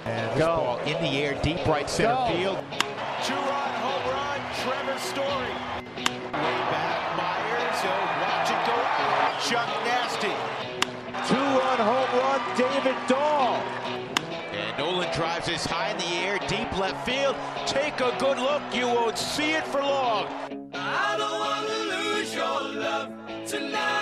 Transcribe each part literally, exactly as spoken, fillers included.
And this Go. ball in the air, deep right center Go. field. Two-run home run, Trevor Story. Way back, Myers. He'll watch it go out. Chuck Nasty. Two-run home run, David Dahl. And Nolan drives this high in the air, deep left field. Take a good look. You won't see it for long. I don't want to lose your love tonight.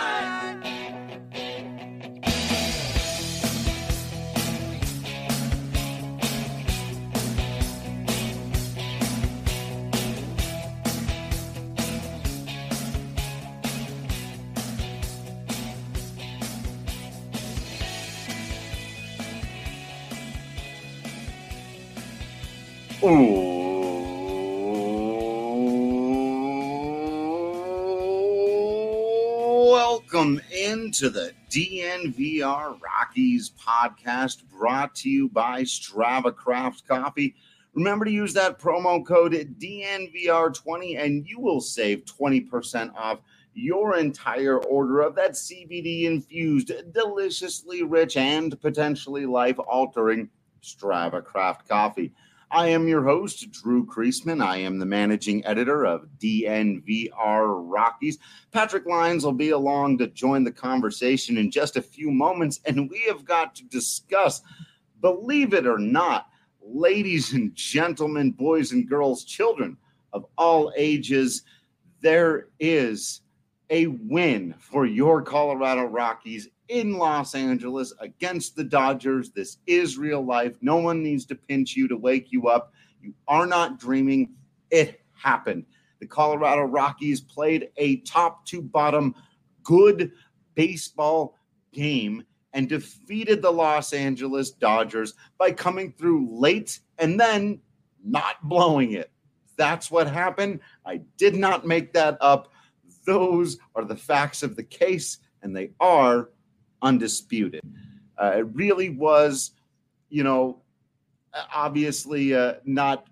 Welcome into the D N V R Rockies podcast, brought to you by Strava Craft Coffee. Remember to use that promo code D N V R twenty and you will save twenty percent off your entire order of that C B D-infused, deliciously rich, and potentially life-altering Strava Craft Coffee. I am your host, Drew Kreisman. I am the managing editor of D N V R Rockies. Patrick Lyons will be along to join the conversation in just a few moments, and we have got to discuss, believe it or not, ladies and gentlemen, boys and girls, children of all ages, there is a win for your Colorado Rockies in Los Angeles against the Dodgers. This is real life. No one needs to pinch you to wake you up. You are not dreaming. It happened. The Colorado Rockies played a top to bottom good baseball game and defeated the Los Angeles Dodgers by coming through late and then not blowing it. That's what happened. I did not make that up. Those are the facts of the case, and they are undisputed. Uh, it really was, you know, obviously uh, not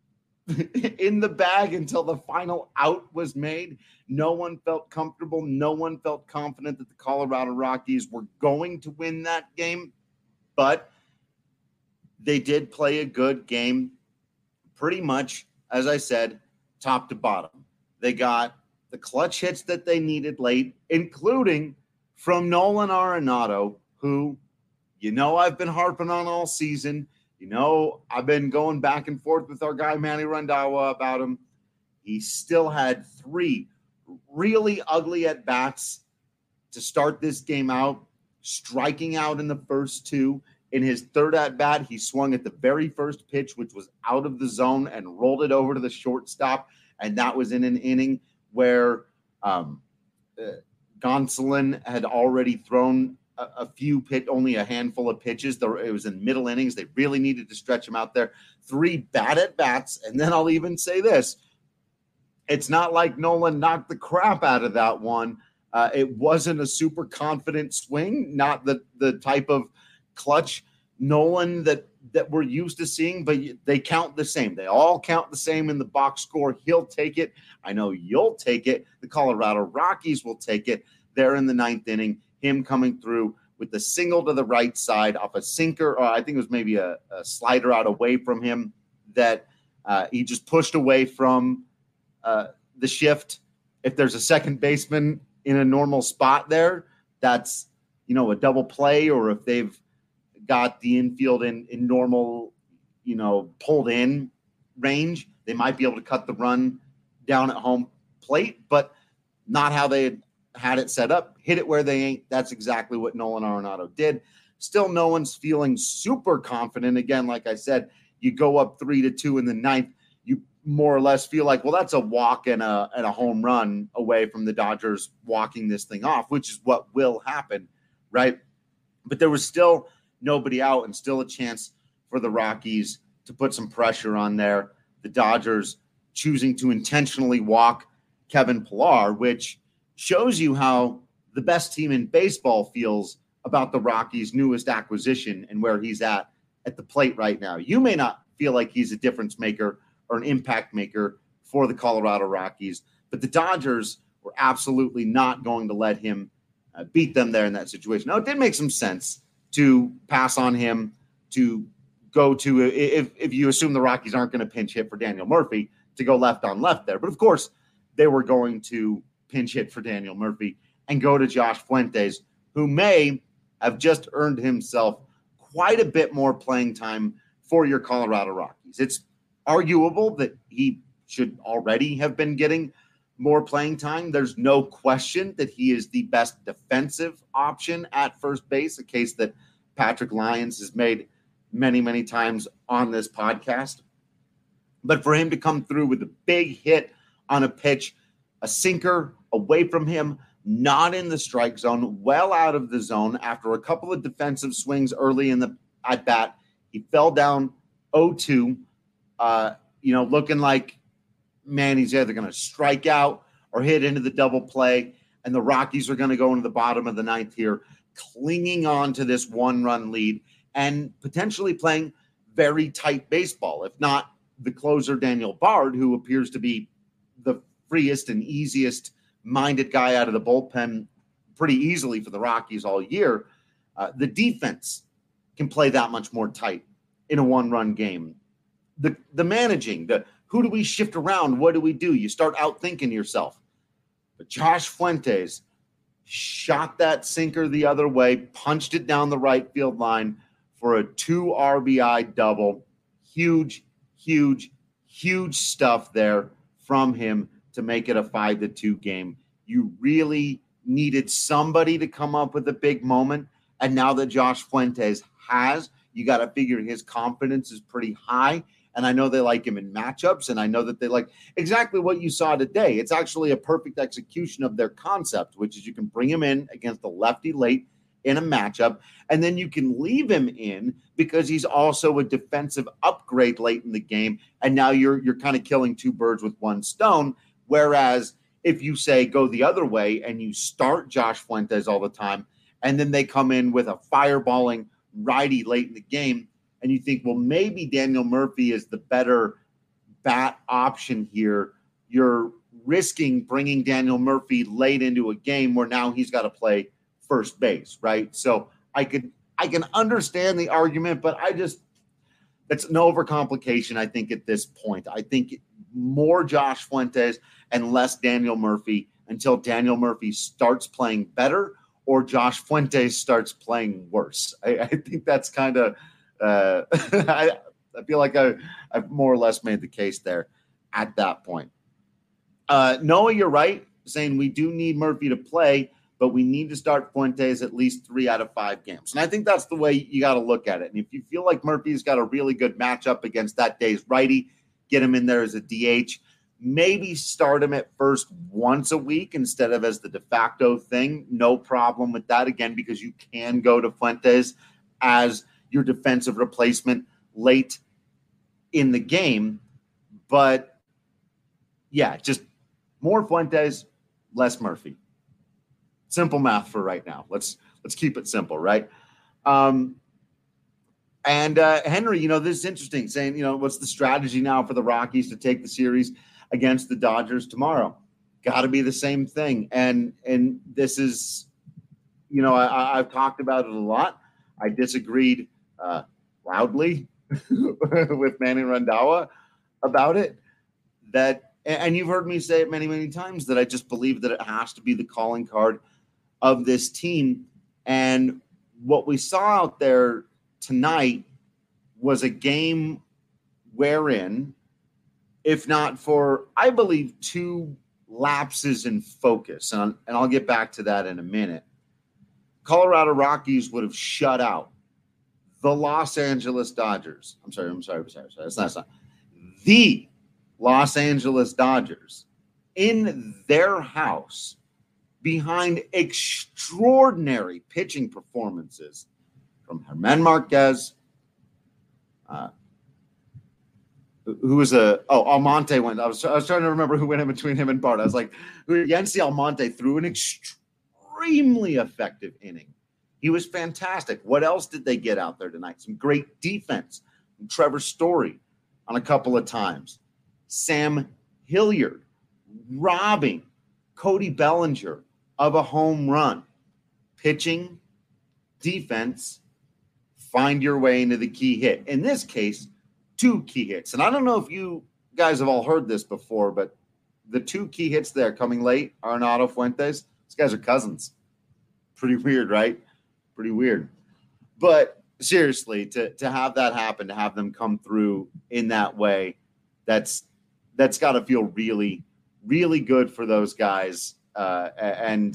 in the bag until the final out was made. No one felt comfortable. No one felt confident that the Colorado Rockies were going to win that game, but they did play a good game pretty much, as I said, top to bottom. They got the clutch hits that they needed late, including from Nolan Arenado, who, you know, I've been harping on all season. You know, I've been going back and forth with our guy, Manny Randhawa, about him. He still had three really ugly at-bats to start this game out, striking out in the first two. In his third at-bat, he swung at the very first pitch, which was out of the zone, and rolled it over to the shortstop, and that was in an inning where um, uh, Gonsolin had already thrown a, a few pit, only a handful of pitches. There, it was in middle innings. They really needed to stretch him out there. Three bad at bats. And then I'll even say this. It's not like Nolan knocked the crap out of that one. Uh, it wasn't a super confident swing, not the, the type of clutch Nolan that, that we're used to seeing, but they count the same. They all count the same in the box score. He'll take it. I know you'll take it. The Colorado Rockies will take it. There in the ninth inning, him coming through with the single to the right side off a sinker, or I think it was maybe a, a slider out away from him that uh, he just pushed away from uh, the shift. If there's a second baseman in a normal spot there, that's, you know, a double play, or if they've got the infield in, in normal, you know, pulled in range, they might be able to cut the run down at home plate, but not how they had, had it set up. Hit it where they ain't. That's exactly what Nolan Arenado did. Still, no one's feeling super confident. Again, like I said, you go up three to two in the ninth, you more or less feel like, well, that's a walk and a, and a home run away from the Dodgers walking this thing off, which is what will happen, right? But there was still nobody out and still a chance for the Rockies to put some pressure on there. The Dodgers choosing to intentionally walk Kevin Pillar, which shows you how the best team in baseball feels about the Rockies' newest acquisition and where he's at at the plate right now. You may not feel like he's a difference maker or an impact maker for the Colorado Rockies, but the Dodgers were absolutely not going to let him uh, beat them there in that situation. Now, it did make some sense to pass on him, to go to, if, if you assume the Rockies aren't going to pinch hit for Daniel Murphy, to go left on left there. But of course, they were going to pinch hit for Daniel Murphy and go to Josh Fuentes, who may have just earned himself quite a bit more playing time for your Colorado Rockies. It's arguable that he should already have been getting more playing time. There's no question that he is the best defensive option at first base, a case that Patrick Lyons has made many, many times on this podcast. But for him to come through with a big hit on a pitch, a sinker away from him, not in the strike zone, well out of the zone after a couple of defensive swings early in the at bat, he fell down oh two, uh, you know, looking like, man, he's either going to strike out or hit into the double play, and the Rockies are going to go into the bottom of the ninth here, clinging on to this one-run lead and potentially playing very tight baseball, if not the closer Daniel Bard, who appears to be the freest and easiest minded guy out of the bullpen pretty easily for the Rockies all year. Uh, the defense can play that much more tight in a one-run game. The the managing, the who do we shift around? What do we do? You start outthinking yourself. But Josh Fuentes shot that sinker the other way, punched it down the right field line for a two R B I double. Huge, huge, huge stuff there from him to make it a five to two game. You really needed somebody to come up with a big moment. And now that Josh Fuentes has, you got to figure his confidence is pretty high. And I know they like him in matchups, and I know that they like exactly what you saw today. It's actually a perfect execution of their concept, which is you can bring him in against a lefty late in a matchup, and then you can leave him in because he's also a defensive upgrade late in the game. And now you're you're kind of killing two birds with one stone. Whereas if you say go the other way and you start Josh Fuentes all the time, and then they come in with a fireballing righty late in the game, and you think, well, maybe Daniel Murphy is the better bat option here, you're risking bringing Daniel Murphy late into a game where now he's got to play first base, right? So I could I can understand the argument, but I just it's an overcomplication, I think, at this point. I think more Josh Fuentes and less Daniel Murphy until Daniel Murphy starts playing better or Josh Fuentes starts playing worse. I, I think that's kind of uh, I, I feel like I, I've more or less made the case there at that point. Uh, Noah, you're right, saying we do need Murphy to play, but we need to start Fuentes at least three out of five games. And I think that's the way you got to look at it. And if you feel like Murphy's got a really good matchup against that day's righty, get him in there as a D H. Maybe start him at first once a week instead of as the de facto thing. No problem with that, again, because you can go to Fuentes as your defensive replacement late in the game. But, yeah, just more Fuentes, less Murphy. Simple math for right now. Let's let's keep it simple, right? Um, and uh, Henry, you know, this is interesting, saying, you know, what's the strategy now for the Rockies to take the series against the Dodgers tomorrow? Got to be the same thing. And and this is, you know, I, I've talked about it a lot. I disagreed uh, loudly with Manny Randhawa about it. That, and you've heard me say it many, many times, that I just believe that it has to be the calling card of this team. And what we saw out there tonight was a game wherein, if not for, I believe, two lapses in focus, and, and I'll get back to that in a minute, Colorado Rockies would have shut out the Los Angeles Dodgers. I'm sorry, I'm sorry, I'm sorry. I'm sorry. That's not, that's not. The Los Angeles Dodgers in their house behind extraordinary pitching performances from Germán Marquez, uh, who was a oh Almonte went. I was I was trying to remember who went in between him and Bart. I was like, Yency Almonte threw an extremely effective inning. He was fantastic. What else did they get out there tonight? Some great defense from Trevor Story on a couple of times. Sam Hilliard robbing Cody Bellinger of a home run. Pitching, defense, find your way into the key hit. In this case, two key hits. And I don't know if you guys have all heard this before, but the two key hits there coming late, Arenado, Fuentes, these guys are cousins. Pretty weird, right? Pretty weird. But seriously, to, to have that happen, to have them come through in that way, that's that's got to feel really, really good for those guys. Uh, and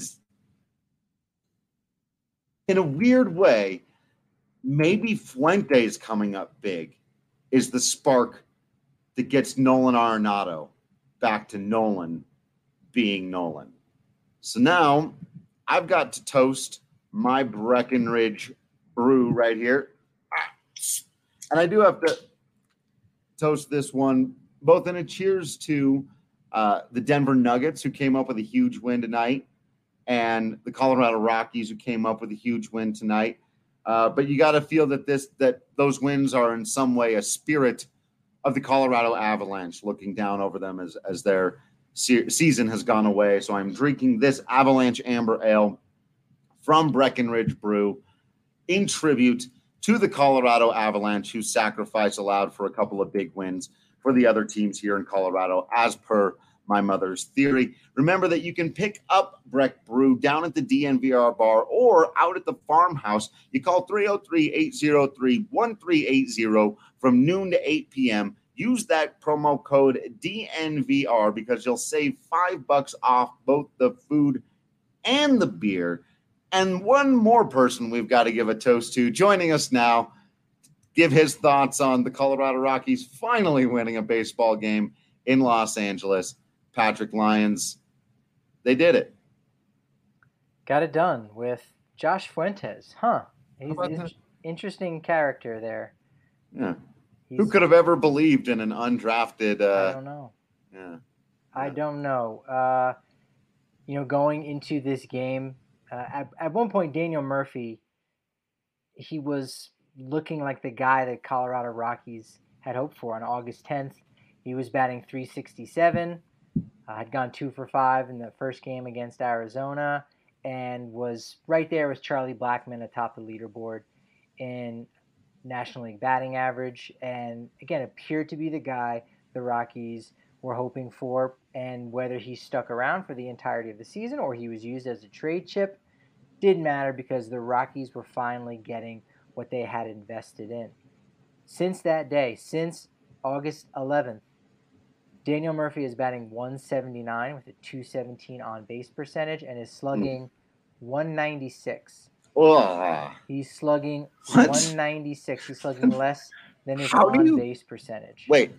in a weird way, maybe Fuentes coming up big is the spark that gets Nolan Arenado back to Nolan being Nolan. So now I've got to toast my Breckenridge brew right here. And I do have to toast this one, both in a cheers to uh, the Denver Nuggets, who came up with a huge win tonight, and the Colorado Rockies, who came up with a huge win tonight. Uh, but you got to feel that this that those wins are in some way a spirit of the Colorado Avalanche looking down over them as, as their se- season has gone away. So I'm drinking this Avalanche Amber Ale from Breckenridge Brew in tribute to the Colorado Avalanche, whose sacrifice allowed for a couple of big wins for the other teams here in Colorado, as per my mother's theory. Remember that you can pick up Breck Brew down at the D N V R bar or out at the farmhouse. You call three oh three, eight oh three, one three eight oh from noon to eight p.m. Use that promo code D N V R because you'll save five bucks off both the food and the beer. And one more person we've got to give a toast to, joining us now, give his thoughts on the Colorado Rockies finally winning a baseball game in Los Angeles. Patrick Lyons, they did it. Got it done with Josh Fuentes. Huh. He's an interesting character there. Yeah. He's, Who could have ever believed in an undrafted? Uh, I don't know. Yeah. I don't know. Uh, you know, going into this game, uh, at, at one point, Daniel Murphy, he was looking like the guy that Colorado Rockies had hoped for on August tenth. He was batting three sixty-seven, uh, had gone two for five in the first game against Arizona, and was right there with Charlie Blackmon atop the leaderboard in National League batting average, and again appeared to be the guy the Rockies were hoping for. And whether he stuck around for the entirety of the season or he was used as a trade chip didn't matter, because the Rockies were finally getting what they had invested in. Since that day, since August eleventh, Daniel Murphy is batting one seventy-nine with a two seventeen on base percentage and is slugging mm. one ninety-six. Ugh. He's slugging What? one ninety-six. He's slugging less than his How do you- on-base percentage. Wait.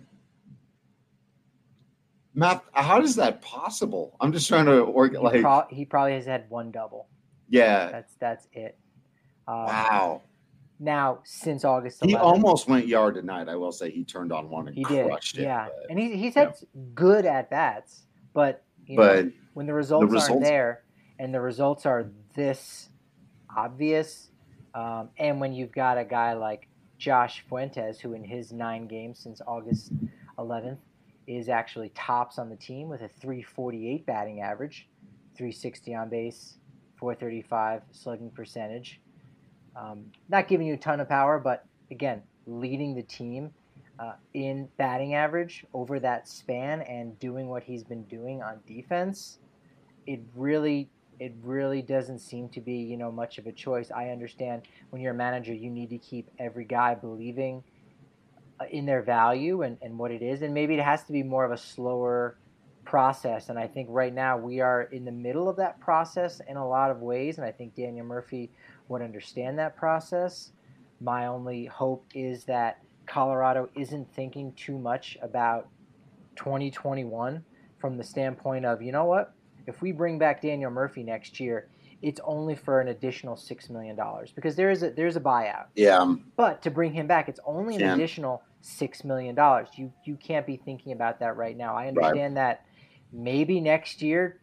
Matt, how is that possible? I'm just trying to work He, like pro- he probably has had one double. yeah. That's that's it. Um, Wow. Now, since August He eleventh, almost went yard tonight. I will say he turned on one and he did. crushed it. Yeah, but- and he, he's had good at bats, but you But know, when the results, the results aren't there and the results are this obvious, um, and when you've got a guy like Josh Fuentes, who in his nine games since August eleventh is actually tops on the team with a three forty-eight batting average, three sixty on base, four thirty-five slugging percentage. Um, not giving you a ton of power, but again, leading the team uh, in batting average over that span and doing what he's been doing on defense. It really, it really doesn't seem to be, you know, much of a choice. I understand when you're a manager, you need to keep every guy believing in their value and, and what it is, and maybe it has to be more of a slower process. And I think right now we are in the middle of that process in a lot of ways, and I think Daniel Murphy would understand that process. My only hope is that Colorado isn't thinking too much about twenty twenty-one from the standpoint of, you know what, if we bring back Daniel Murphy next year, it's only for an additional six million dollars, because there is a, there's a buyout. Yeah. But to bring him back, it's only an Can't. additional six million dollars. You you can't be thinking about that right now. I understand right. that maybe next year,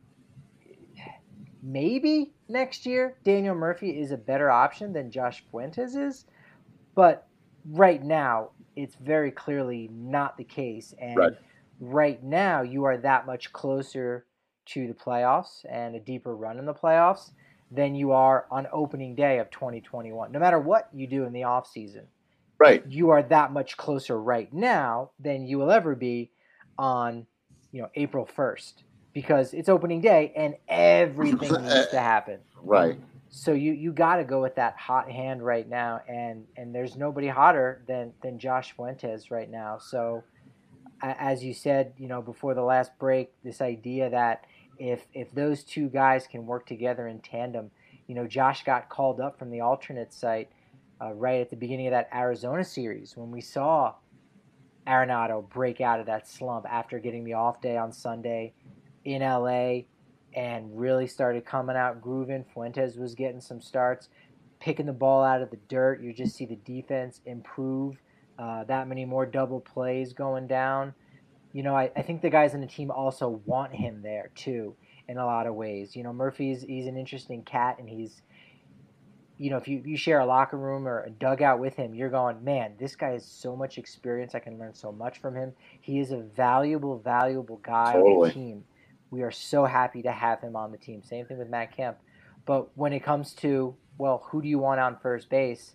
maybe next year, Daniel Murphy is a better option than Josh Fuentes is. But right now, it's very clearly not the case. And right. right now, you are that much closer to the playoffs and a deeper run in the playoffs than you are on opening day of twenty twenty-one. No matter what you do in the offseason, right, you are that much closer right now than you will ever be on, you know, April first, because it's opening day and everything needs to happen. Right. So you, you got to go with that hot hand right now, and, and there's nobody hotter than, than Josh Fuentes right now. So as you said, you know, before the last break, this idea that if if those two guys can work together in tandem, you know, Josh got called up from the alternate site uh, right at the beginning of that Arizona series when we saw Arenado break out of that slump after getting the off day on Sunday in L A and really started coming out grooving. Fuentes was getting some starts, picking the ball out of the dirt. You just see the defense improve. Uh, that many more double plays going down. You know, I, I think the guys on the team also want him there too, in a lot of ways. You know, Murphy's he's an interesting cat, and he's, you know, if you, you share a locker room or a dugout with him, you're going, man, this guy has so much experience. I can learn so much from him. He is a valuable, valuable guy Totally. on the team. We are so happy to have him on the team. Same thing with Matt Kemp. But when it comes to, well, who do you want on first base?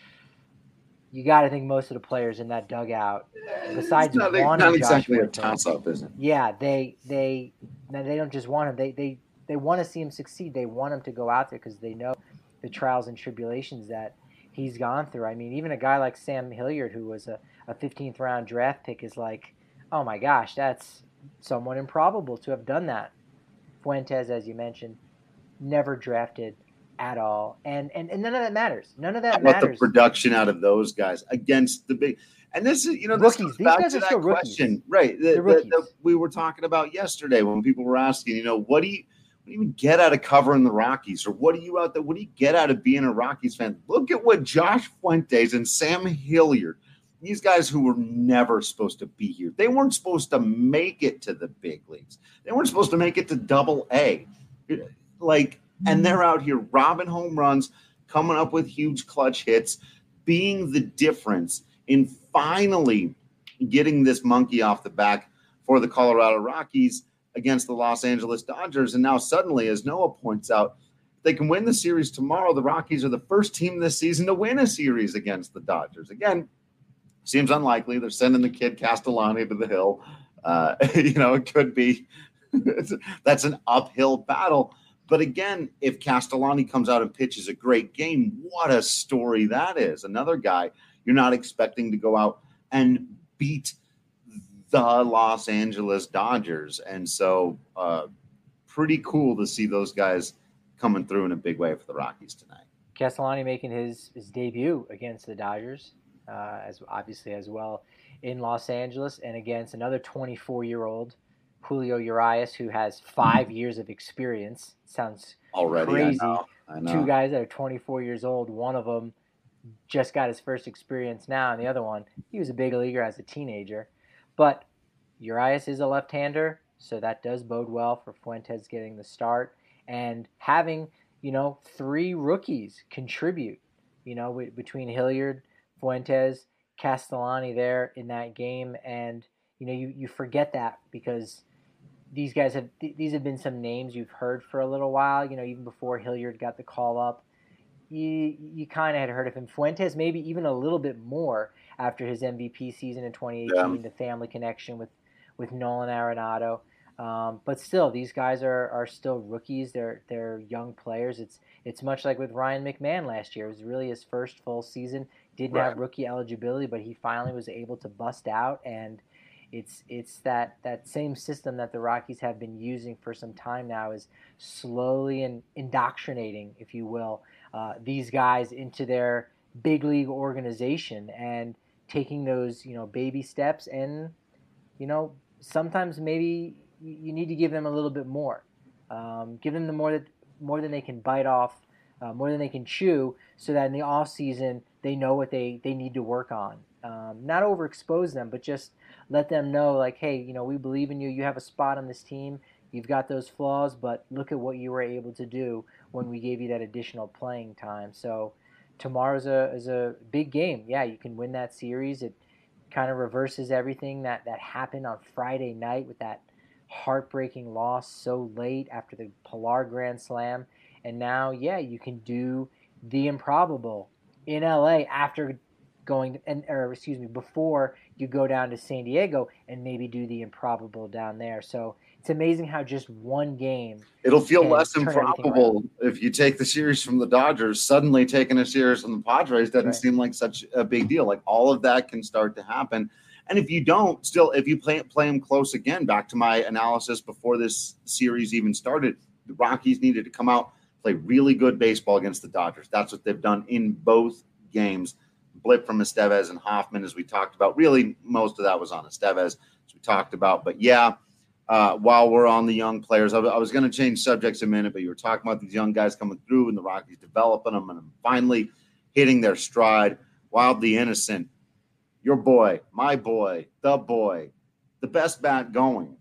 You got to think most of the players in that dugout, besides It's not, wanting not exactly Josh a Fuentes, toss-up, is it? yeah, they they they don't just want him. They they they want to see him succeed. They want him to go out there because they know the trials and tribulations that he's gone through. I mean, even a guy like Sam Hilliard, who was a, a fifteenth round draft pick, is like, oh my gosh, that's somewhat improbable to have done that. Fuentes, as you mentioned, never drafted at all, and, and and none of that matters. None of that How about matters. the production out of those guys against the big? And this is, you know, this Rookies. goes These back guys to are that still rookies. question, right? That, They're that, rookies. that we were talking about yesterday when people were asking, you know, what do you, what do you even get out of covering the Rockies, or what do you out there? What do you get out of being a Rockies fan? Look at what Josh Fuentes and Sam Hilliard, these guys who were never supposed to be here, they weren't supposed to make it to the big leagues. They weren't supposed to make it to Double A, like, and they're out here robbing home runs, coming up with huge clutch hits, being the difference in finally getting this monkey off the back for the Colorado Rockies against the Los Angeles Dodgers. And now suddenly, as Noah points out, they can win the series tomorrow. The Rockies are the first team this season to win a series against the Dodgers. Again, seems unlikely. They're sending the kid Castellani to the hill. Uh, you know, it could be. That's an uphill battle. But again, if Castellani comes out and pitches a great game, what a story that is. Another guy you're not expecting to go out and beat the Los Angeles Dodgers. And so uh, pretty cool to see those guys coming through in a big way for the Rockies tonight. Castellani making his, his debut against the Dodgers, uh, as obviously as well in Los Angeles, and against another twenty-four-year-old Julio Urias, who has five years of experience. Sounds Already, crazy. I know, I know. Two guys that are twenty-four years old. One of them just got his first experience now, and the other one, he was a big leaguer as a teenager. But Urias is a left-hander, so that does bode well for Fuentes getting the start and having, you know, three rookies contribute, you know, w- between Hilliard, Fuentes, Castellani there in that game. And, you know, you, you forget that because these guys have, th- these have been some names you've heard for a little while, you know, even before Hilliard got the call up. You, you kind of had heard of him. Fuentes maybe even a little bit more after his M V P season in twenty eighteen, yeah. The family connection with, with Nolan Arenado. Um, but still, these guys are, are still rookies. They're they're young players. It's it's much like with Ryan McMahon last year. It was really his first full season. Didn't right. have rookie eligibility, but he finally was able to bust out. And it's it's that, that same system that the Rockies have been using for some time now, is slowly and indoctrinating, if you will, uh, these guys into their big league organization and taking those, you know, baby steps. And, you know, sometimes maybe you need to give them a little bit more. Um, give them the more that more than they can bite off, uh, more than they can chew, so that in the off season they know what they, they need to work on. Um, not overexpose them, but just let them know, like, hey, you know, we believe in you. You have a spot on this team. You've got those flaws, but look at what you were able to do when we gave you that additional playing time. So tomorrow's a is a big game. Yeah, you can win that series. It kind of reverses everything that, that happened on Friday night with that heartbreaking loss so late after the Pilar Grand Slam. And now, yeah, you can do the improbable in L A after going and or excuse me, before you go down to San Diego and maybe do the improbable down there. So it's amazing how just one game it'll feel can less turn everything improbable if you take the series from the Dodgers. Suddenly taking a series from the Padres doesn't Right. seem like such a big deal. Like all of that can start to happen. And if you don't, still, if you play play them close again, back to my analysis before this series even started, the Rockies needed to come out, play really good baseball against the Dodgers. That's what they've done in both games. Blip from Estevez and Hoffman, as we talked about. Really, most of that was on Estevez, as we talked about. But yeah, uh, while we're on the young players, I, I was going to change subjects a minute, but you were talking about these young guys coming through and the Rockies developing them and finally hitting their stride. Wildly Innocent, your boy, my boy, the boy, the best bat going.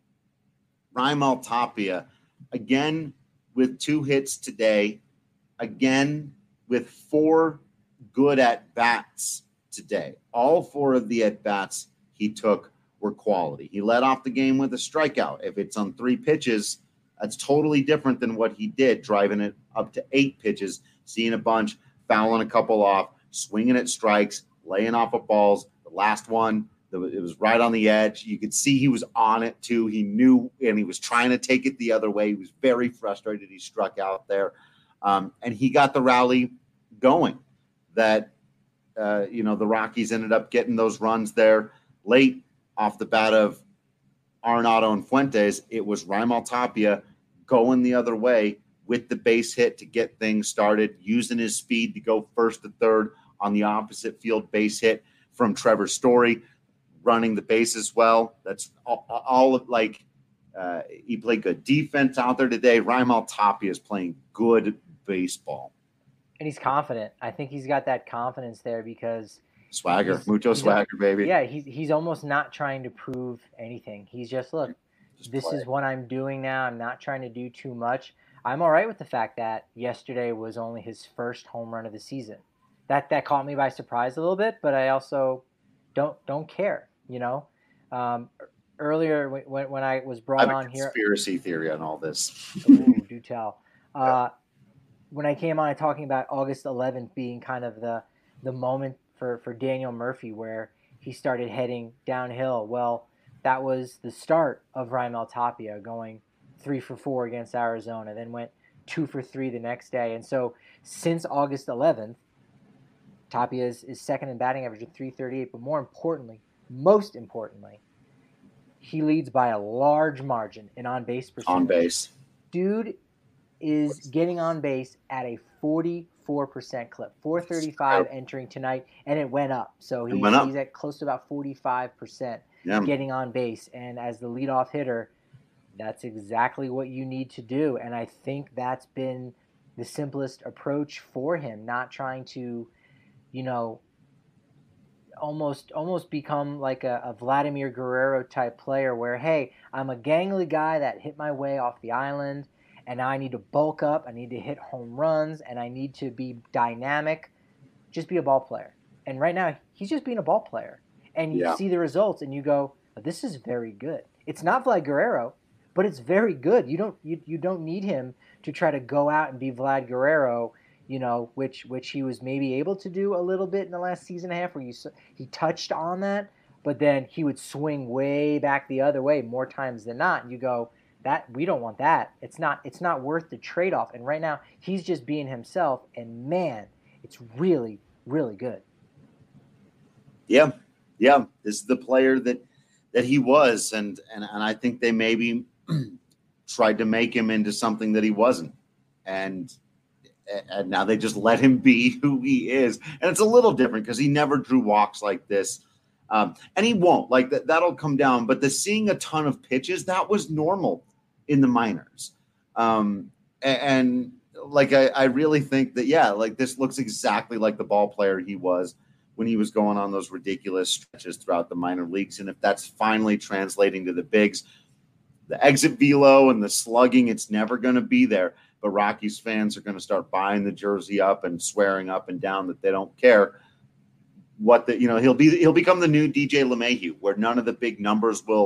Raimel Tapia, again with two hits today, again with four good at-bats today. All four of the at-bats he took were quality. He led off the game with a strikeout. If it's on three pitches, that's totally different than what he did, driving it up to eight pitches, seeing a bunch, fouling a couple off, swinging at strikes, laying off of balls. The last one, it was right on the edge. You could see he was on it, too. He knew, and he was trying to take it the other way. He was very frustrated. He struck out there, um, and he got the rally going. That, uh, you know, the Rockies ended up getting those runs there late off the bat of Arenado and Fuentes. It was Raimel Tapia going the other way with the base hit to get things started, using his speed to go first to third on the opposite field base hit from Trevor Story, running the bases well. That's all, all of, like, uh, he played good defense out there today. Raimel Tapia is playing good baseball. And he's confident. I think he's got that confidence there because swagger, he's, mucho he's swagger, a, baby. Yeah, he's he's almost not trying to prove anything. He's just, look, just this play. is what I'm doing now. I'm not trying to do too much. I'm all right with the fact that yesterday was only his first home run of the season. That that caught me by surprise a little bit, but I also don't don't care. You know, um, earlier when when I was brought I have on a here, conspiracy theory on all this. Ooh, do tell. Uh, when I came on talking about August eleventh being kind of the the moment for, for Daniel Murphy where he started heading downhill. Well, that was the start of Raimel Tapia going three for four against Arizona, then went two for three the next day. And so since August eleventh, Tapia is, is second in batting average at three thirty-eight. But more importantly, most importantly, he leads by a large margin in on-base percentage. On base. Dude is getting on base at a forty-four percent clip, four thirty-five entering tonight, and it went up. So he's, up. he's at close to about forty-five percent Yeah. getting on base. And as the leadoff hitter, that's exactly what you need to do. And I think that's been the simplest approach for him, not trying to, you know, almost almost become like a, a Vladimir Guerrero type player where, hey, I'm a gangly guy that hit my way off the island, and now I need to bulk up, I need to hit home runs, and I need to be dynamic. Just be a ball player. And right now, he's just being a ball player. And you Yeah. see the results, and you go, this is very good. It's not Vlad Guerrero, but it's very good. You don't you, you don't need him to try to go out and be Vlad Guerrero, you know, which which he was maybe able to do a little bit in the last season and a half where you, he touched on that, but then he would swing way back the other way more times than not. And you go, that we don't want that. It's not it's not worth the trade-off. And right now, he's just being himself, and man, it's really, really good. Yeah. Yeah. This is the player that that he was, and and, and I think they maybe tried to make him into something that he wasn't. And and now they just let him be who he is. And it's a little different because he never drew walks like this. Um, and he won't. Like that, that'll come down. But the seeing a ton of pitches, that was normal in the minors. Um, and, and like I, I really think that, yeah, like this looks exactly like the ball player he was when he was going on those ridiculous stretches throughout the minor leagues. And if that's finally translating to the bigs, the exit velo and the slugging, it's never going to be there. But Rockies fans are going to start buying the jersey up and swearing up and down that they don't care what the, you know, he'll be, he'll become the new D J LeMahieu, where none of the big numbers will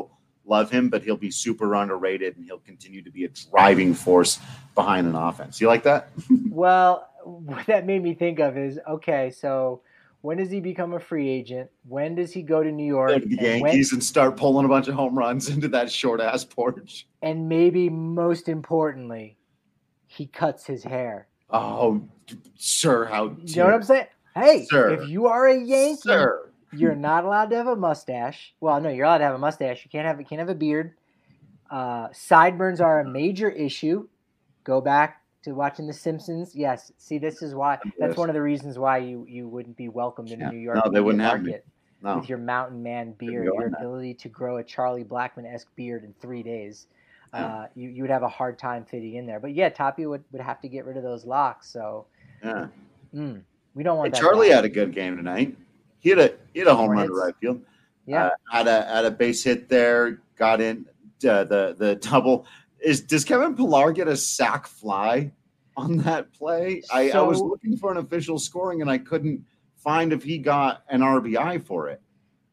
love him, but he'll be super underrated and he'll continue to be a driving force behind an offense. You like that? Well, what that made me think of is, okay, so when does he become a free agent? When does he go to New York? Go to the and Yankees when, and start pulling a bunch of home runs into that short-ass porch. And maybe most importantly, he cuts his hair. Oh, sir, how You know what I'm saying? Hey, Sir. if you are a Yankee, Sir. you're not allowed to have a mustache. Well, no, you're allowed to have a mustache. You can't have you can't have a beard. Uh, sideburns are a major issue. Go back to watching The Simpsons. Yes, see, this is why. That's Yes. one of the reasons why you, you wouldn't be welcomed in Yeah. New York. No, they media wouldn't have me. market No. With your mountain man beard, go your in that. ability to grow a Charlie Blackmon-esque beard in three days. Yeah. Uh, you, you would have a hard time fitting in there. But yeah, Tapia would, would have to get rid of those locks. So Yeah. mm, we don't want Hey, that. Charlie back. had a good game tonight. He had a he had a home Four run to hits. right field. Yeah. Uh, had a had a base hit there. Got in uh, the the double. Is does Kevin Pillar get a sac fly on that play? I, I was So- looking for an official scoring and I couldn't find if he got an R B I for it.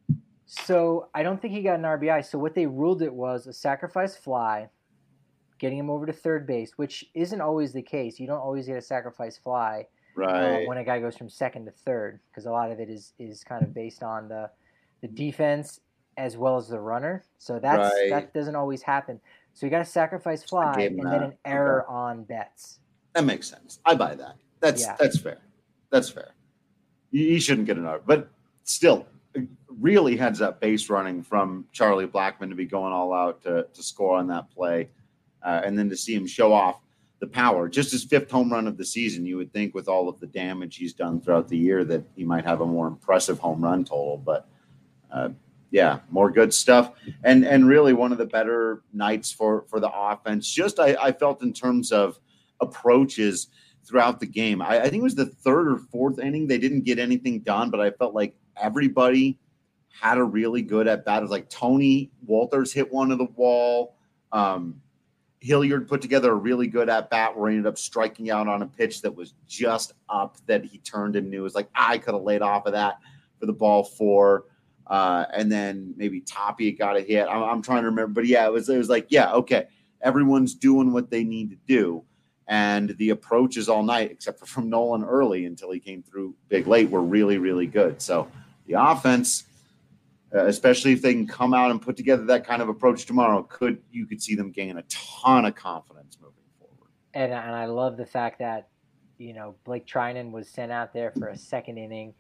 So I don't think he got an R B I. So what they ruled it was a sacrifice fly, getting him over to third base, which isn't always the case. You don't always get a sacrifice fly Right. uh, when a guy goes from second to third, because a lot of it is is kind of based on the the defense as well as the runner. So that's Right. that doesn't always happen. So you got a sacrifice fly gave him and then that. an error on Betts. That makes sense. I buy that. That's Yeah. that's fair. That's fair. You, you shouldn't get an R, but still, really heads up base running from Charlie Blackmon to be going all out to to score on that play, uh, and then to see him show off the power. Just his fifth home run of the season. You would think with all of the damage he's done throughout the year that he might have a more impressive home run total, but. Uh, Yeah, more good stuff, and and really one of the better nights for for the offense. Just I, I felt in terms of approaches throughout the game. I, I think it was the third or fourth inning they didn't get anything done, but I felt like everybody had a really good at bat. It was like Tony Walters hit one to the wall. Um, Hilliard put together a really good at bat where he ended up striking out on a pitch that was just up that he turned and knew. It was like I could have laid off of that for the ball four. Uh, and then maybe Tapia got a hit. I'm, I'm trying to remember, but yeah, it was it was like, yeah, okay, everyone's doing what they need to do, and the approaches all night, except for from Nolan early until he came through big late, were really really good. So the offense, uh, especially if they can come out and put together that kind of approach tomorrow, could you could see them gain a ton of confidence moving forward. And and I love the fact that, you know, Blake Trinan was sent out there for a second inning,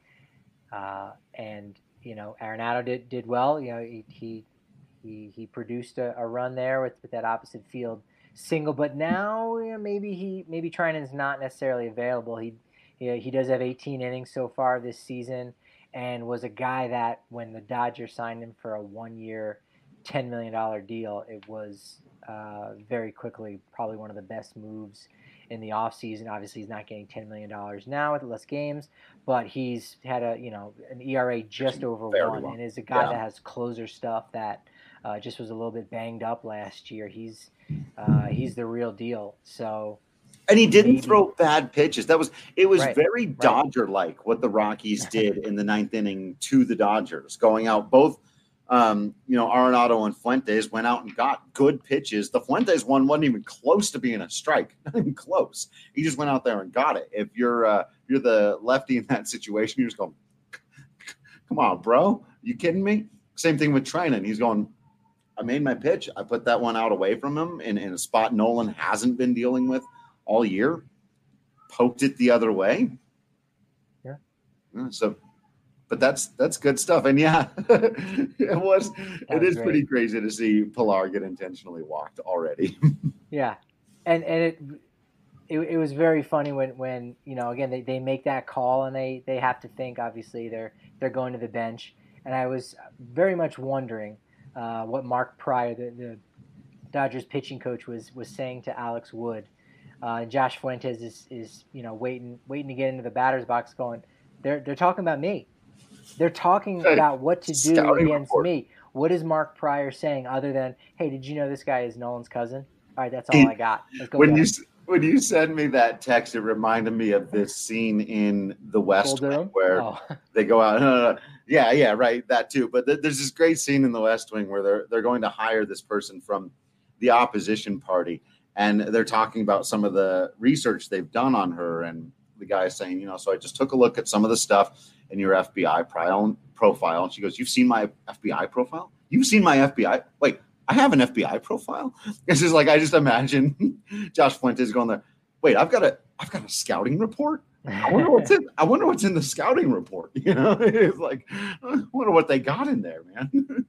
uh, and you know, Arenado did, did well. You know, he he he, he produced a, a run there with, with that opposite field single. But now, you know, maybe he maybe Trinan's not necessarily available. He he, he does have eighteen innings so far this season, and was a guy that when the Dodgers signed him for a one-year, ten million dollars deal, it was uh, very quickly probably one of the best moves in the offseason. Obviously, he's not getting ten million dollars now with less games, but he's had a, you know, an E R A just over Very one, well. and is a guy Yeah. that has closer stuff that uh, just was a little bit banged up last year. He's uh, he's the real deal. So, And he didn't maybe- throw bad pitches. That was it was Right, very Dodger-like what the Rockies did in the ninth inning to the Dodgers, going out both. Um, you know, Arenado and Fuentes went out and got good pitches. The Fuentes one wasn't even close to being a strike, not even close. He just went out there and got it. If you're uh, you're the lefty in that situation, you're just going, "Come on, bro, you kidding me?" Same thing with Trinan. He's going, "I made my pitch. I put that one out away from him in, in a spot Nolan hasn't been dealing with all year. Poked it the other way." Yeah. Yeah, so. But that's that's good stuff, and yeah, it was. It was is great. pretty crazy to see Pilar get intentionally walked already. yeah, and and it, it it was very funny when when you know, again, they, they make that call and they they have to think, obviously they're they're going to the bench, and I was very much wondering uh, what Mark Pryor, the, the Dodgers pitching coach, was was saying to Alex Wood. Uh, Josh Fuentes is is you know waiting waiting to get into the batter's box, going, they're they're talking about me. They're talking Hey, about what to do scouting against report. me. What is Mark Pryor saying other than, hey, did you know this guy is Nolan's cousin? All right, that's all He- I got. Let's go when get you him. s- when you sent me that text, it reminded me of this scene in The West Wing where oh. they go out. No, no, no. Yeah, yeah, right. That too. But th- there's this great scene in The West Wing where they're they're going to hire this person from the opposition party, and they're talking about some of the research they've done on her. And the guy is saying, you know, so I just took a look at some of the stuff in your F B I profile. And she goes, "You've seen my F B I profile? You've seen my F B I? Wait, I have an F B I profile?" It's just like, I just imagine Josh Fuentes going there. Wait, I've got a, I've got a scouting report. I wonder what's in, I wonder what's in the scouting report. You know, it's like, I wonder what they got in there, man.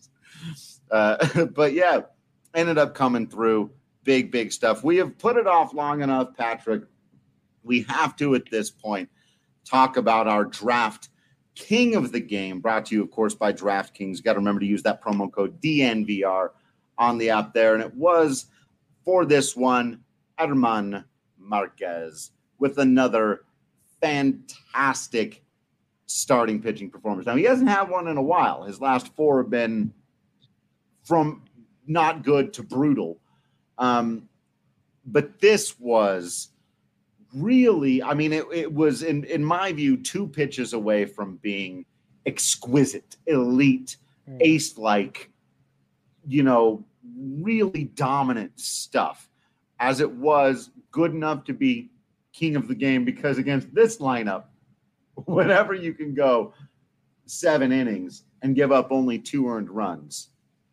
uh, but yeah, ended up coming through big, big stuff. We have put it off long enough, Patrick. We have to, at this point, talk about our draft king of the game, brought to you, of course, by DraftKings. Got to remember to use that promo code D N V R on the app there. And it was, for this one, German Marquez with another fantastic starting pitching performance. Now, he hasn't had one in a while. His last four have been from not good to brutal. Um, but this was really, I mean, it, it was, in, in my view, two pitches away from being exquisite, elite, mm. ace-like, you know, really dominant stuff, as it was good enough to be king of the game, because against this lineup, whenever you can go seven innings and give up only two earned runs,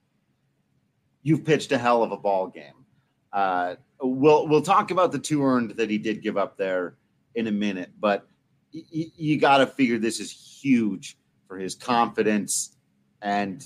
you've pitched a hell of a ball game. Uh, we'll we'll talk about the two earned that he did give up there in a minute, but y- y- you got to figure this is huge for his confidence and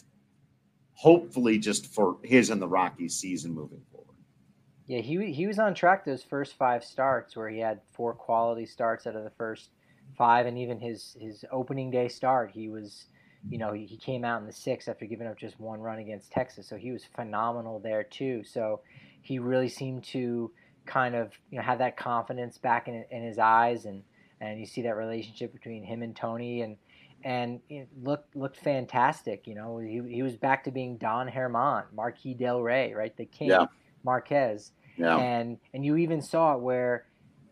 hopefully just for his and the Rockies season moving forward. Yeah, he he was on track those first five starts where he had four quality starts out of the first five, and even his his opening day start, he was, you know, he, he came out in the sixth after giving up just one run against Texas, so he was phenomenal there too. So he really seemed to kind of, you know, have that confidence back in in his eyes, and and you see that relationship between him and Tony, and and it looked looked fantastic. You know, he he was back to being Don Herman, Marquis Del Rey, right, the king. Yeah. Marquez, yeah. and and you even saw it where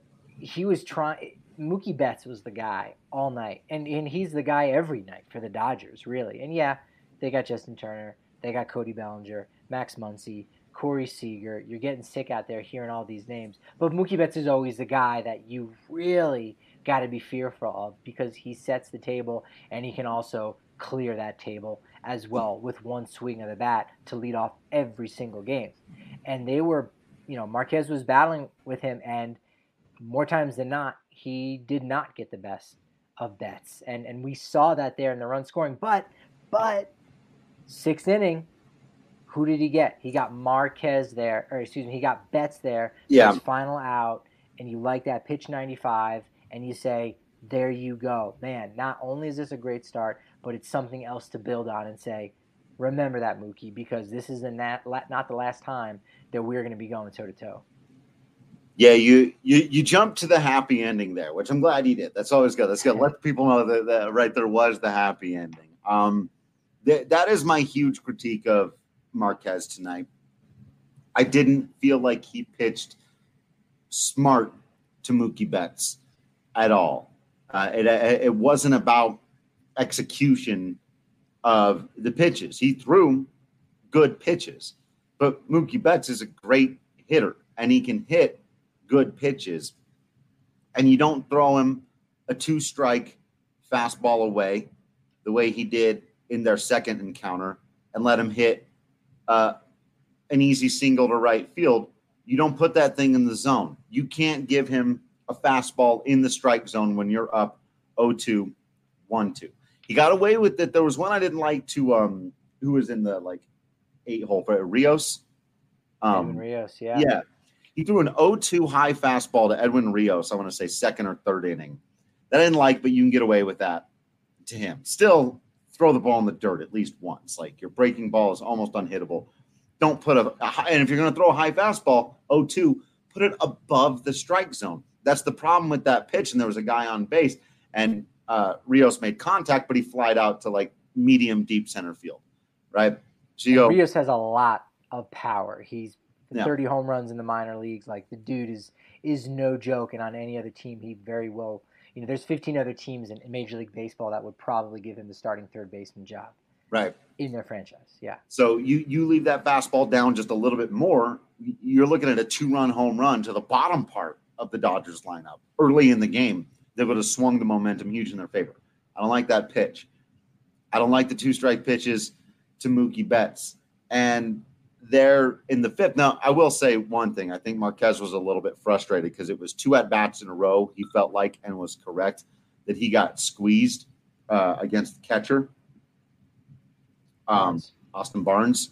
he was trying. Mookie Betts was the guy all night, and and he's the guy every night for the Dodgers, really. And yeah, they got Justin Turner, they got Cody Bellinger, Max Muncy, Corey Seager. You're getting sick out there hearing all these names, but Mookie Betts is always the guy that you really got to be fearful of, because he sets the table and he can also clear that table as well with one swing of the bat to lead off every single game. And they were, you know, Marquez was battling with him, and more times than not, he did not get the best of Betts. And and we saw that there in the run scoring. But, but, sixth inning, who did he get? He got Marquez there, or excuse me, he got Betts there. Yeah. His final out, and you like that pitch ninety-five, and you say, there you go. Man, not only is this a great start, but it's something else to build on and say, remember that, Mookie, because this is the nat, not the last time that we're going to be going toe-to-toe. Yeah, you, you you jumped to the happy ending there, which I'm glad you did. That's always good. That's good. Let people know that, that right there was the happy ending. Um, th- that is my huge critique of Marquez tonight. I didn't feel like he pitched smart to Mookie Betts at all. Uh, it it wasn't about execution of the pitches. He threw good pitches, but Mookie Betts is a great hitter, and he can hit good pitches. And you don't throw him a two-strike fastball away the way he did in their second encounter and let him hit uh, an easy single to right field. You don't put that thing in the zone. You can't give him a fastball in the strike zone when you're up oh two, one two. He got away with it. There was one I didn't like to um who was in the like eight hole for Rios. Um Edwin Rios, yeah. Yeah. He threw an oh two high fastball to Edwin Rios, I want to say second or third inning. That I didn't like, but you can get away with that to him. Still throw the ball in the dirt at least once. Like, your breaking ball is almost unhittable. Don't put a, a high, and if you're going to throw a high fastball, oh two, put it above the strike zone. That's the problem with that pitch. And there was a guy on base, and uh, Rios made contact, but he flied out to like medium deep center field, right? So you go, Rios has a lot of power. He's Yeah. thirty home runs in the minor leagues. Like, the dude is is no joke, and on any other team, he very well, you know, there's fifteen other teams in Major League Baseball that would probably give him the starting third baseman job. Right. In their franchise, yeah. So you you leave that fastball down just a little bit more, you're looking at a two-run home run to the bottom part of the Dodgers lineup early in the game that would have swung the momentum huge in their favor. I don't like that pitch. I don't like the two-strike pitches to Mookie Betts. And they're in the fifth. Now, I will say one thing. I think Marquez was a little bit frustrated because it was two at-bats in a row, he felt like, and was correct, that he got squeezed uh, against the catcher. Um, Austin Barnes.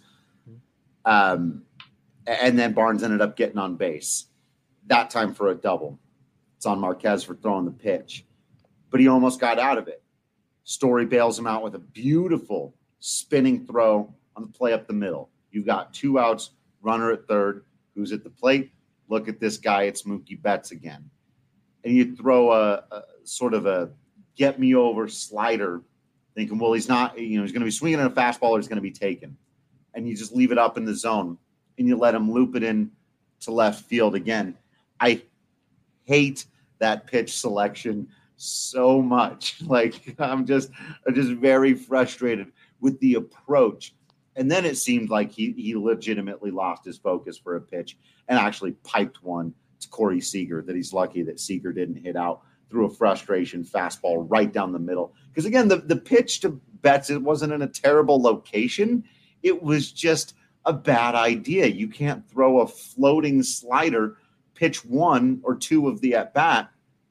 Um, and then Barnes ended up getting on base. That time for a double. It's on Marquez for throwing the pitch. But he almost got out of it. Story bails him out with a beautiful spinning throw on the play up the middle. You've got two outs, runner at third. Who's at the plate? Look at this guy. It's Mookie Betts again. And you throw a, a sort of a get me over slider, thinking, well, he's not, you know, he's going to be swinging at a fastball or he's going to be taken. And you just leave it up in the zone and you let him loop it in to left field again. I hate that pitch selection so much. Like, I'm just, I'm just very frustrated with the approach. And then it seemed like he, he legitimately lost his focus for a pitch and actually piped one to Corey Seager that he's lucky that Seager didn't hit out through a frustration fastball right down the middle. Because, again, the, the pitch to Betts, it wasn't in a terrible location. It was just a bad idea. You can't throw a floating slider, pitch one or two of the at-bat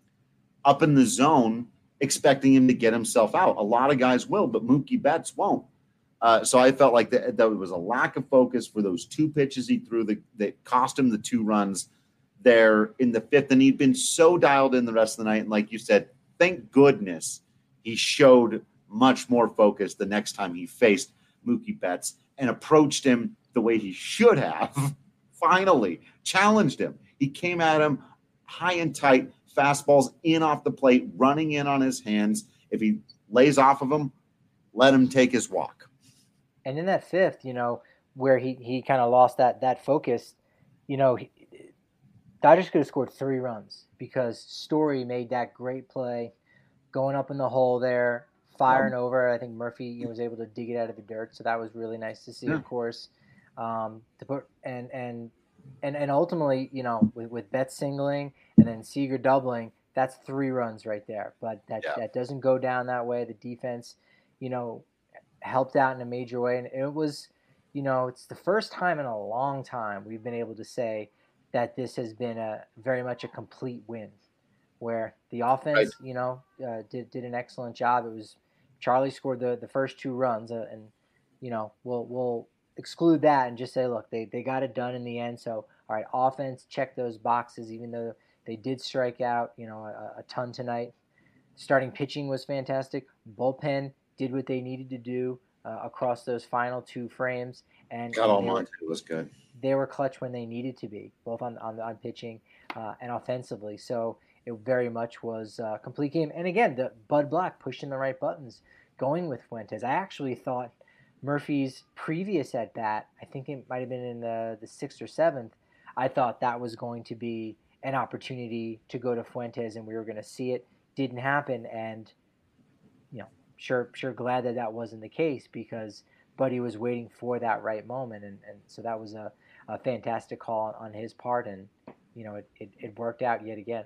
up in the zone, expecting him to get himself out. A lot of guys will, but Mookie Betts won't. Uh, so I felt like that, that was a lack of focus for those two pitches he threw that, that cost him the two runs there in the fifth. And he'd been so dialed in the rest of the night. And like you said, thank goodness he showed much more focus the next time he faced Mookie Betts and approached him the way he should have. Finally challenged him. He came at him high and tight, fastballs in off the plate, running in on his hands. If he lays off of him, let him take his walk. And in that fifth, you know, where he, he kind of lost that that focus, you know, he, Dodgers could have scored three runs because Story made that great play, going up in the hole there, firing um, over. I think Murphy, you know, was able to dig it out of the dirt, so that was really nice to see. Yeah. Of course, um, to put and and and and ultimately, you know, with, with Betts singling and then Seager doubling, that's three runs right there. But that yeah. that doesn't go down that way. The defense, you know, helped out in a major way, and it was, you know, it's the first time in a long time we've been able to say that this has been a very much a complete win, where the offense, right. you know, uh, did did an excellent job. It was Charlie scored the, the first two runs, uh, and you know we'll we'll exclude that and just say, look, they they got it done in the end. So all right, offense, check those boxes, even though they did strike out, you know, a, a ton tonight. Starting pitching was fantastic. Bullpen did what they needed to do uh, across those final two frames, and God Almighty, it was good. They were clutch when they needed to be, both on on, on pitching uh, and offensively. So it very much was a complete game. And again, the Bud Black pushing the right buttons, going with Fuentes. I actually thought Murphy's previous at bat, I think it might have been in the the sixth or seventh. I thought that was going to be an opportunity to go to Fuentes, and we were going to see it. Didn't happen, and you know. Sure, sure. Glad that that wasn't the case because Buddy was waiting for that right moment, and, and so that was a, a fantastic call on his part, and you know it, it, it worked out yet again.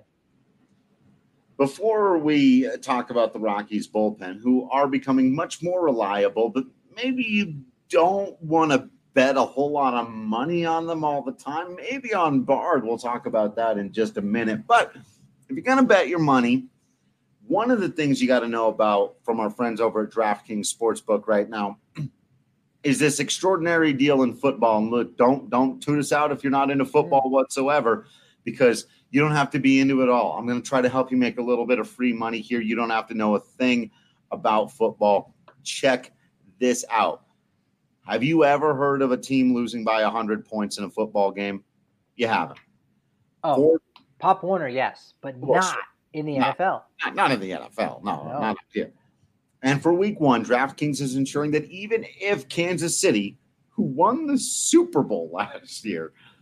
Before we talk about the Rockies bullpen, who are becoming much more reliable, but maybe you don't want to bet a whole lot of money on them all the time. Maybe on Bard, we'll talk about that in just a minute. But if you're going to bet your money, one of the things you got to know about from our friends over at DraftKings Sportsbook right now is this extraordinary deal in football. And look, don't don't tune us out if you're not into football whatsoever, because you don't have to be into it all. I'm going to try to help you make a little bit of free money here. You don't have to know a thing about football. Check this out. Have you ever heard of a team losing by one hundred points in a football game? You haven't. Oh, Four, Pop Warner, yes, but well, not in the not, N F L. Not, not in the N F L. No, no. not here. And for week one, DraftKings is ensuring that even if Kansas City, who won the Super Bowl last year,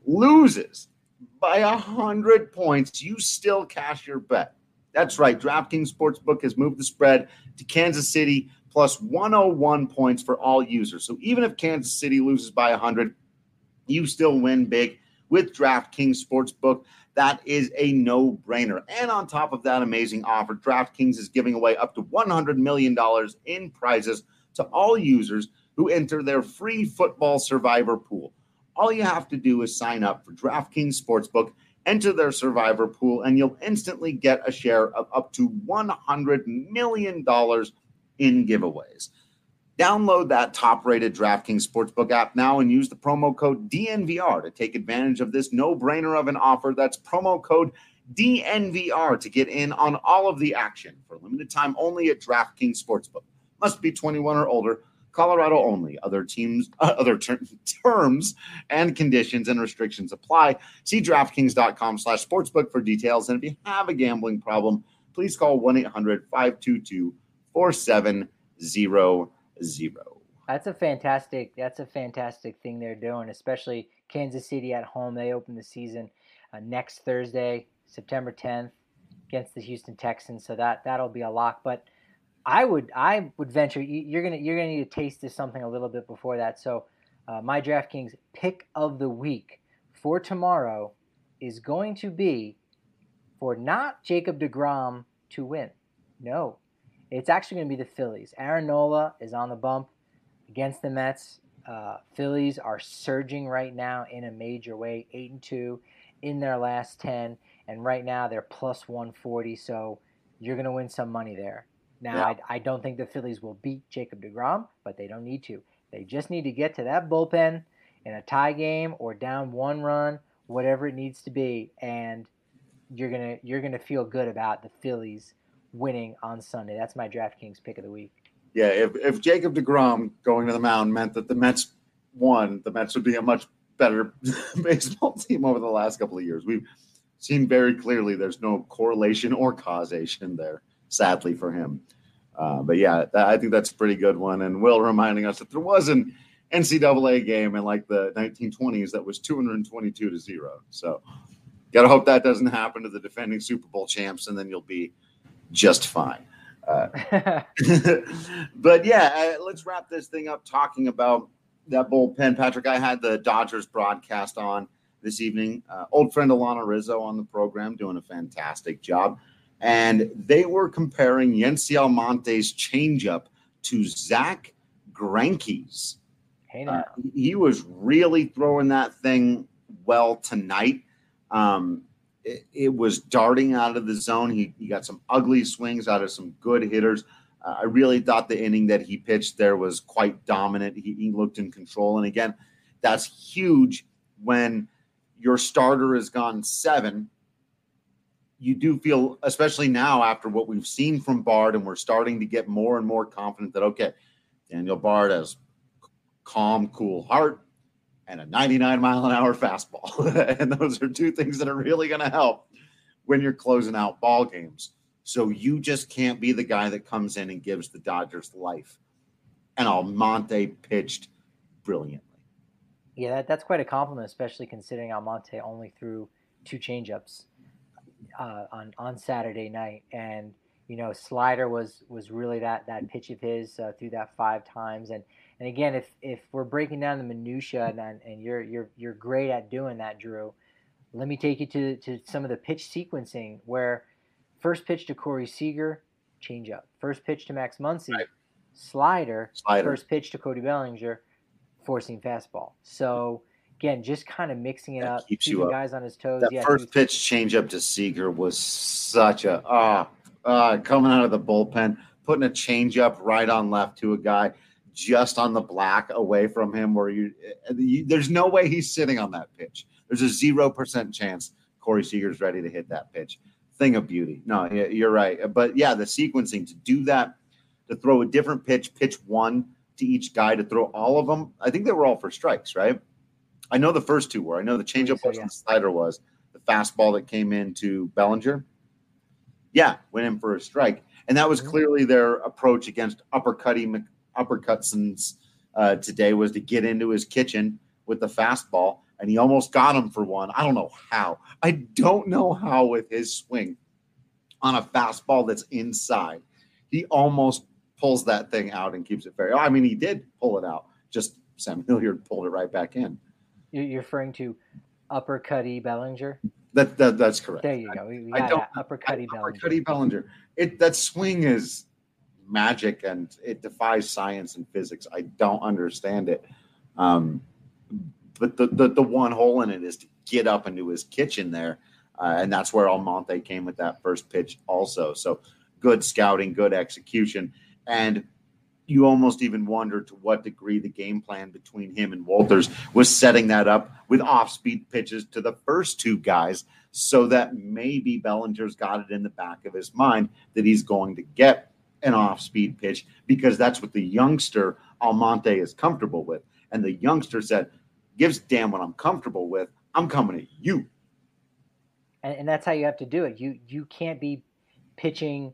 loses by one hundred points, you still cash your bet. That's right. DraftKings Sportsbook has moved the spread to Kansas City plus one oh one points for all users. So even if Kansas City loses by one hundred, you still win big with DraftKings Sportsbook. That is a no-brainer. And on top of that amazing offer, DraftKings is giving away up to one hundred million dollars in prizes to all users who enter their free football survivor pool. All you have to do is sign up for DraftKings Sportsbook, enter their survivor pool, and you'll instantly get a share of up to one hundred million dollars in giveaways. Download that top-rated DraftKings Sportsbook app now and use the promo code D N V R to take advantage of this no-brainer of an offer. That's promo code D N V R to get in on all of the action for limited time only at DraftKings Sportsbook. Must be twenty-one or older. Colorado only. Other teams, uh, other ter- terms and conditions and restrictions apply. See DraftKings.com slash sportsbook for details. And if you have a gambling problem, please call one eight hundred five two two four seven zero zero. That's a fantastic. That's a fantastic thing they're doing, especially Kansas City at home. They open the season uh, next Thursday, September tenth, against the Houston Texans. So that that'll be a lock. But I would I would venture you're gonna you're gonna need to taste this something a little bit before that. So uh, my DraftKings pick of the week for tomorrow is going to be for not Jacob deGrom to win. No, it's actually going to be the Phillies. Aaron Nola is on the bump against the Mets. Uh, Phillies are surging right now in a major way, eight and two in their last ten, and right now they're plus one forty. So you're going to win some money there. Now, yeah. I, I don't think the Phillies will beat Jacob deGrom, but they don't need to. They just need to get to that bullpen in a tie game or down one run, whatever it needs to be, and you're gonna you're gonna feel good about the Phillies winning on Sunday. That's my DraftKings pick of the week. Yeah, if if Jacob deGrom going to the mound meant that the Mets won, the Mets would be a much better baseball team over the last couple of years. We've seen very clearly there's no correlation or causation there, sadly for him. Uh, but yeah, that, I think that's a pretty good one. And Will reminding us that there was an N C double A game in like the nineteen twenties that was two hundred twenty-two to zero. So got to hope that doesn't happen to the defending Super Bowl champs, and then you'll be just fine. Uh, but yeah, uh, let's wrap this thing up talking about that bullpen. Patrick, I had the Dodgers broadcast on this evening. Uh, old friend Alana Rizzo on the program doing a fantastic job. And they were comparing Yency Almonte's changeup to Zach Greinke's. Hey now. Uh, he was really throwing that thing well tonight. Um, it, it was darting out of the zone. He, he got some ugly swings out of some good hitters. Uh, I really thought the inning that he pitched there was quite dominant. He, he looked in control. And again, that's huge when your starter has gone seven. You do feel, especially now after what we've seen from Bard, and we're starting to get more and more confident that, okay, Daniel Bard has calm, cool heart and a ninety-nine mile an hour fastball. And those are two things that are really going to help when you're closing out ball games. So you just can't be the guy that comes in and gives the Dodgers life. And Almonte pitched brilliantly. Yeah, that, that's quite a compliment, especially considering Almonte only threw two changeups Uh, on on Saturday night, and you know slider was was really that that pitch of his uh, through that five times, and and again if if we're breaking down the minutia, and and you're you're you're great at doing that, Drew, let me take you to to some of the pitch sequencing where first pitch to Corey Seager, changeup, first pitch to Max Muncy, right. slider, slider, first pitch to Cody Bellinger, four-seam fastball. So. Again, just kind of mixing it that up, keeps keeping you up. guys on his toes. That yeah, first pitch changeup to Seager was such a ah uh, uh, coming out of the bullpen, putting a changeup right on left to a guy just on the black away from him, where you, you there's no way he's sitting on that pitch. There's a zero percent chance Corey Seager's ready to hit that pitch. Thing of beauty. No, you're right. But yeah, the sequencing to do that, to throw a different pitch, pitch one to each guy, to throw all of them. I think they were all for strikes, right? I know the first two were. I know the changeup so, was yeah. and the slider was. The fastball that came into Bellinger, yeah, went in for a strike. And that was mm-hmm. clearly their approach against uppercutting uppercutsons uh, today, was to get into his kitchen with the fastball. and he almost got him for one. I don't know how. I don't know how with his swing on a fastball that's inside, he almost pulls that thing out and keeps it fair. I mean, he did pull it out. Just Sam Hilliard pulled it right back in. You're referring to uppercutty Bellinger? That, that That's correct. There you go. We, we I got don't, uppercutty Bellinger. Uppercutty Bellinger. It, that swing is magic, and it defies science and physics. I don't understand it. Um, but the, the, the one hole in it is to get up into his kitchen there, uh, and that's where Almonte came with that first pitch also. So good scouting, good execution, and you almost even wonder to what degree the game plan between him and Walters was setting that up with off-speed pitches to the first two guys so that maybe Bellinger's got it in the back of his mind that he's going to get an off-speed pitch because that's what the youngster Almonte is comfortable with. And the youngster said, gives a damn what I'm comfortable with. I'm coming at you. And, and that's how you have to do it. You you can't be pitching,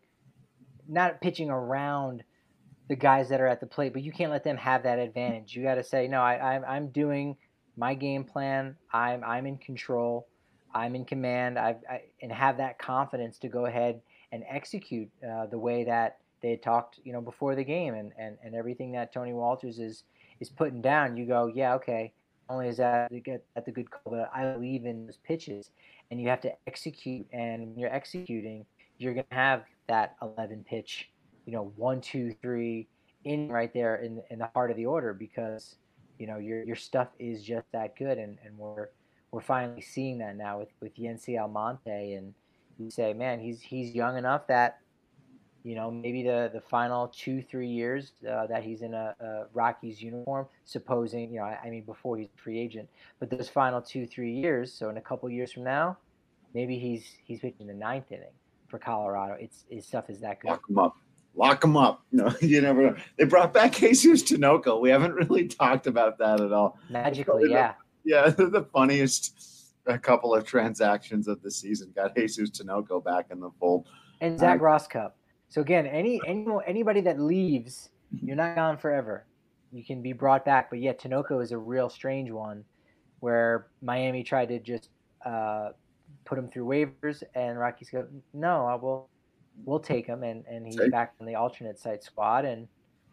not pitching around the guys that are at the plate, but you can't let them have that advantage. You got to say, no, I, I'm I'm doing my game plan. I'm I'm in control. I'm in command. I've, I and have that confidence to go ahead and execute uh, the way that they had talked, you know, before the game, and, and, and everything that Tony Walters is is putting down. You go, yeah, okay. Not only is that to get at the good call, but I believe in those pitches, and you have to execute. And when you're executing, you're gonna have that eleven pitch, you know, one, two, three in right there in in the heart of the order because, you know, your your stuff is just that good, and, and we're we're finally seeing that now with with Yency Almonte, and you say, man, he's he's young enough that, you know, maybe the, the final two, three years uh, that he's in a, a Rockies uniform, supposing, you know, I, I mean, before he's a free agent, but those final two, three years, so in a couple years from now, maybe he's he's pitching the ninth inning for Colorado. It's his stuff is that good. Lock him up. Lock him up. No, you never know. They brought back Jesus Tinoco. We haven't really talked about that at all. Magically, yeah. The, yeah, the funniest a couple of transactions of the season got Jesus Tinoco back in the fold. And Zach uh, Rosscup. So again, any, any anybody that leaves, you're not gone forever. You can be brought back. But yeah, Tinoco is a real strange one where Miami tried to just uh, put him through waivers, and Rockies go, no, I will. We'll take him, and, and he's take. back on the alternate site squad, and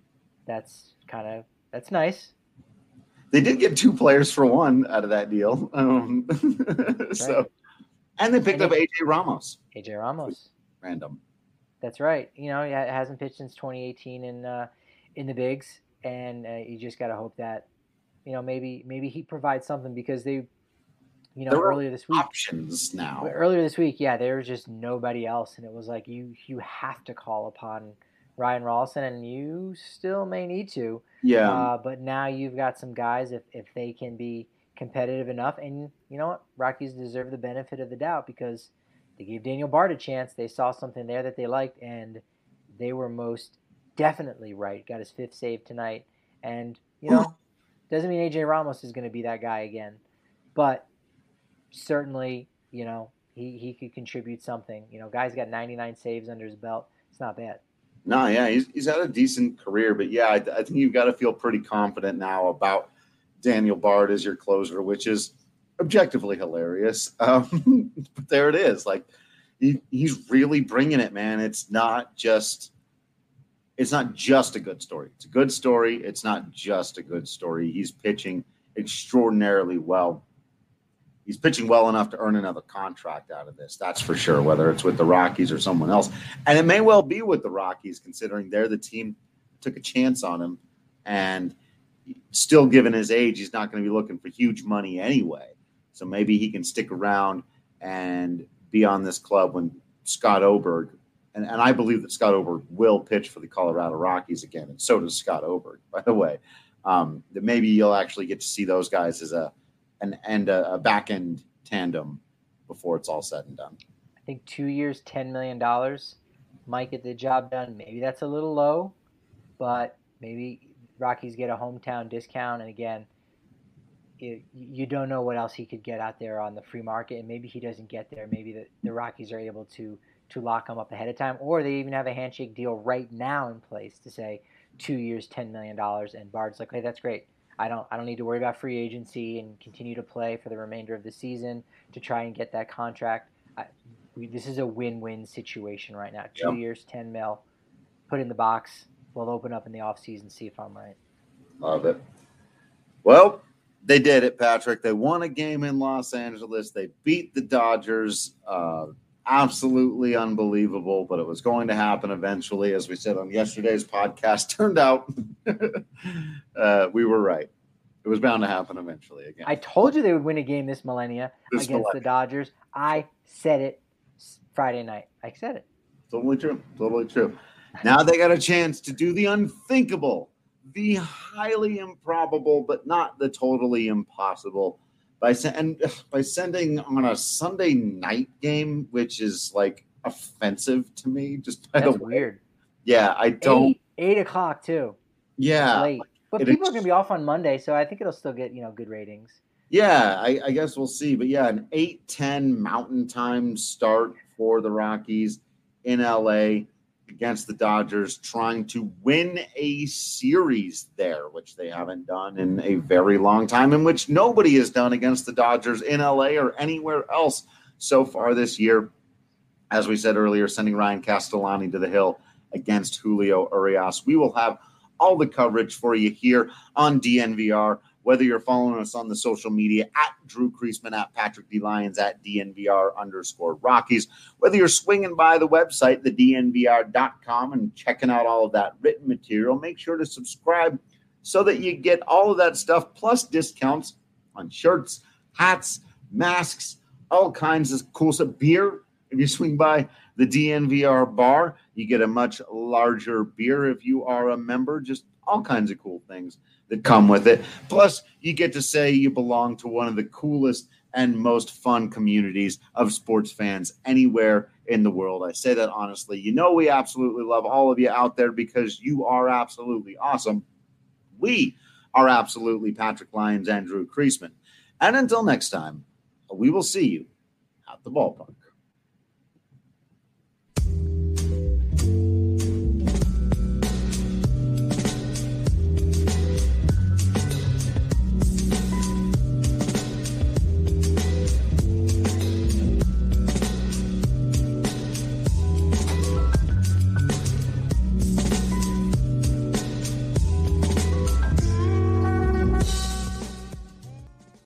that's kind of that's nice. They did get two players for one out of that deal, um, so right. And they picked and up A J Ramos. A J Ramos, random. That's right. You know, he hasn't pitched since twenty eighteen in uh, in the bigs, and uh, you just got to hope that, you know, maybe maybe he provides something because they. You know, there earlier this week, options now. Earlier this week, yeah, there was just nobody else, and it was like you you have to call upon Ryan Rawlston, and you still may need to. Yeah. Uh, but now you've got some guys if if they can be competitive enough, and you know what, Rockies deserve the benefit of the doubt because they gave Daniel Bard a chance. They saw something there that they liked, and they were most definitely right. Got his fifth save tonight, and you know, doesn't mean A J Ramos is going to be that guy again, but certainly, you know, he, he could contribute something. You know, guy's got ninety-nine saves under his belt. It's not bad. No, yeah, he's he's had a decent career, but yeah, I, I think you've got to feel pretty confident now about Daniel Bard as your closer, which is objectively hilarious. Um, but there it is. Like he, he's really bringing it, man. It's not just it's not just a good story. It's a good story. It's not just a good story. He's pitching extraordinarily well. He's pitching well enough to earn another contract out of this. That's for sure, whether it's with the Rockies or someone else. And it may well be with the Rockies, considering they're the team that took a chance on him. And still, given his age, he's not going to be looking for huge money anyway. So maybe he can stick around and be on this club when Scott Oberg, and, and I believe that Scott Oberg will pitch for the Colorado Rockies again, and so does Scott Oberg, by the way. Um, that maybe you'll actually get to see those guys as a and and a, a back end tandem before it's all said and done. I think two years, ten million dollars might get the job done. Maybe that's a little low, but maybe Rockies get a hometown discount. And again, it, you don't know what else he could get out there on the free market, and maybe he doesn't get there. Maybe the, the Rockies are able to to lock him up ahead of time, or they even have a handshake deal right now in place to say two years, ten million dollars, and Bard's like, hey, that's great. I don't I don't need to worry about free agency and continue to play for the remainder of the season to try and get that contract. I, we, this is a win-win situation right now. Two Yep. years, ten mil, put in the box. We'll open up in the offseason, see if I'm right. Love it. Well, they did it, Patrick. They won a game in Los Angeles. They beat the Dodgers. Uh, absolutely unbelievable, but it was going to happen eventually, as we said on yesterday's podcast. Turned out uh, we were right. It was bound to happen eventually again. I told you they would win a game this millennia This against millennia. the Dodgers. I said it Friday night. I said it. Totally true. Totally true. Now they got a chance to do the unthinkable, the highly improbable, but not the totally impossible by sen- and by sending on a Sunday night game, which is like offensive to me. Just by That's the way. weird. Yeah, I don't. Eight, eight o'clock too. Yeah, Late. But it people is- are going to be off on Monday, so I think it'll still get, you know, good ratings. yeah. I, I guess we'll see. But yeah, an eight ten Mountain Time start for the Rockies in L A against the Dodgers, trying to win a series there, which they haven't done in a very long time, in which nobody has done against the Dodgers in L A or anywhere else so far this year. As we said earlier, sending Ryan Castellani to the hill against Julio Urias. We will have all the coverage for you here on D N V R, whether you're following us on the social media at Drew Creasman, at Patrick D. Lyons, at D N V R underscore Rockies, whether you're swinging by the website, the D N V R dot com, and checking out all of that written material. Make sure to subscribe so that you get all of that stuff, plus discounts on shirts, hats, masks, all kinds of cool stuff. Beer, if you swing by the D N V R bar, you get a much larger beer if you are a member. Just all kinds of cool things that come with it. Plus, you get to say you belong to one of the coolest and most fun communities of sports fans anywhere in the world. I say that honestly. You know we absolutely love all of you out there because you are absolutely awesome. We are absolutely Patrick Lyons and Drew Creasman. And until next time, we will see you at the ballpark.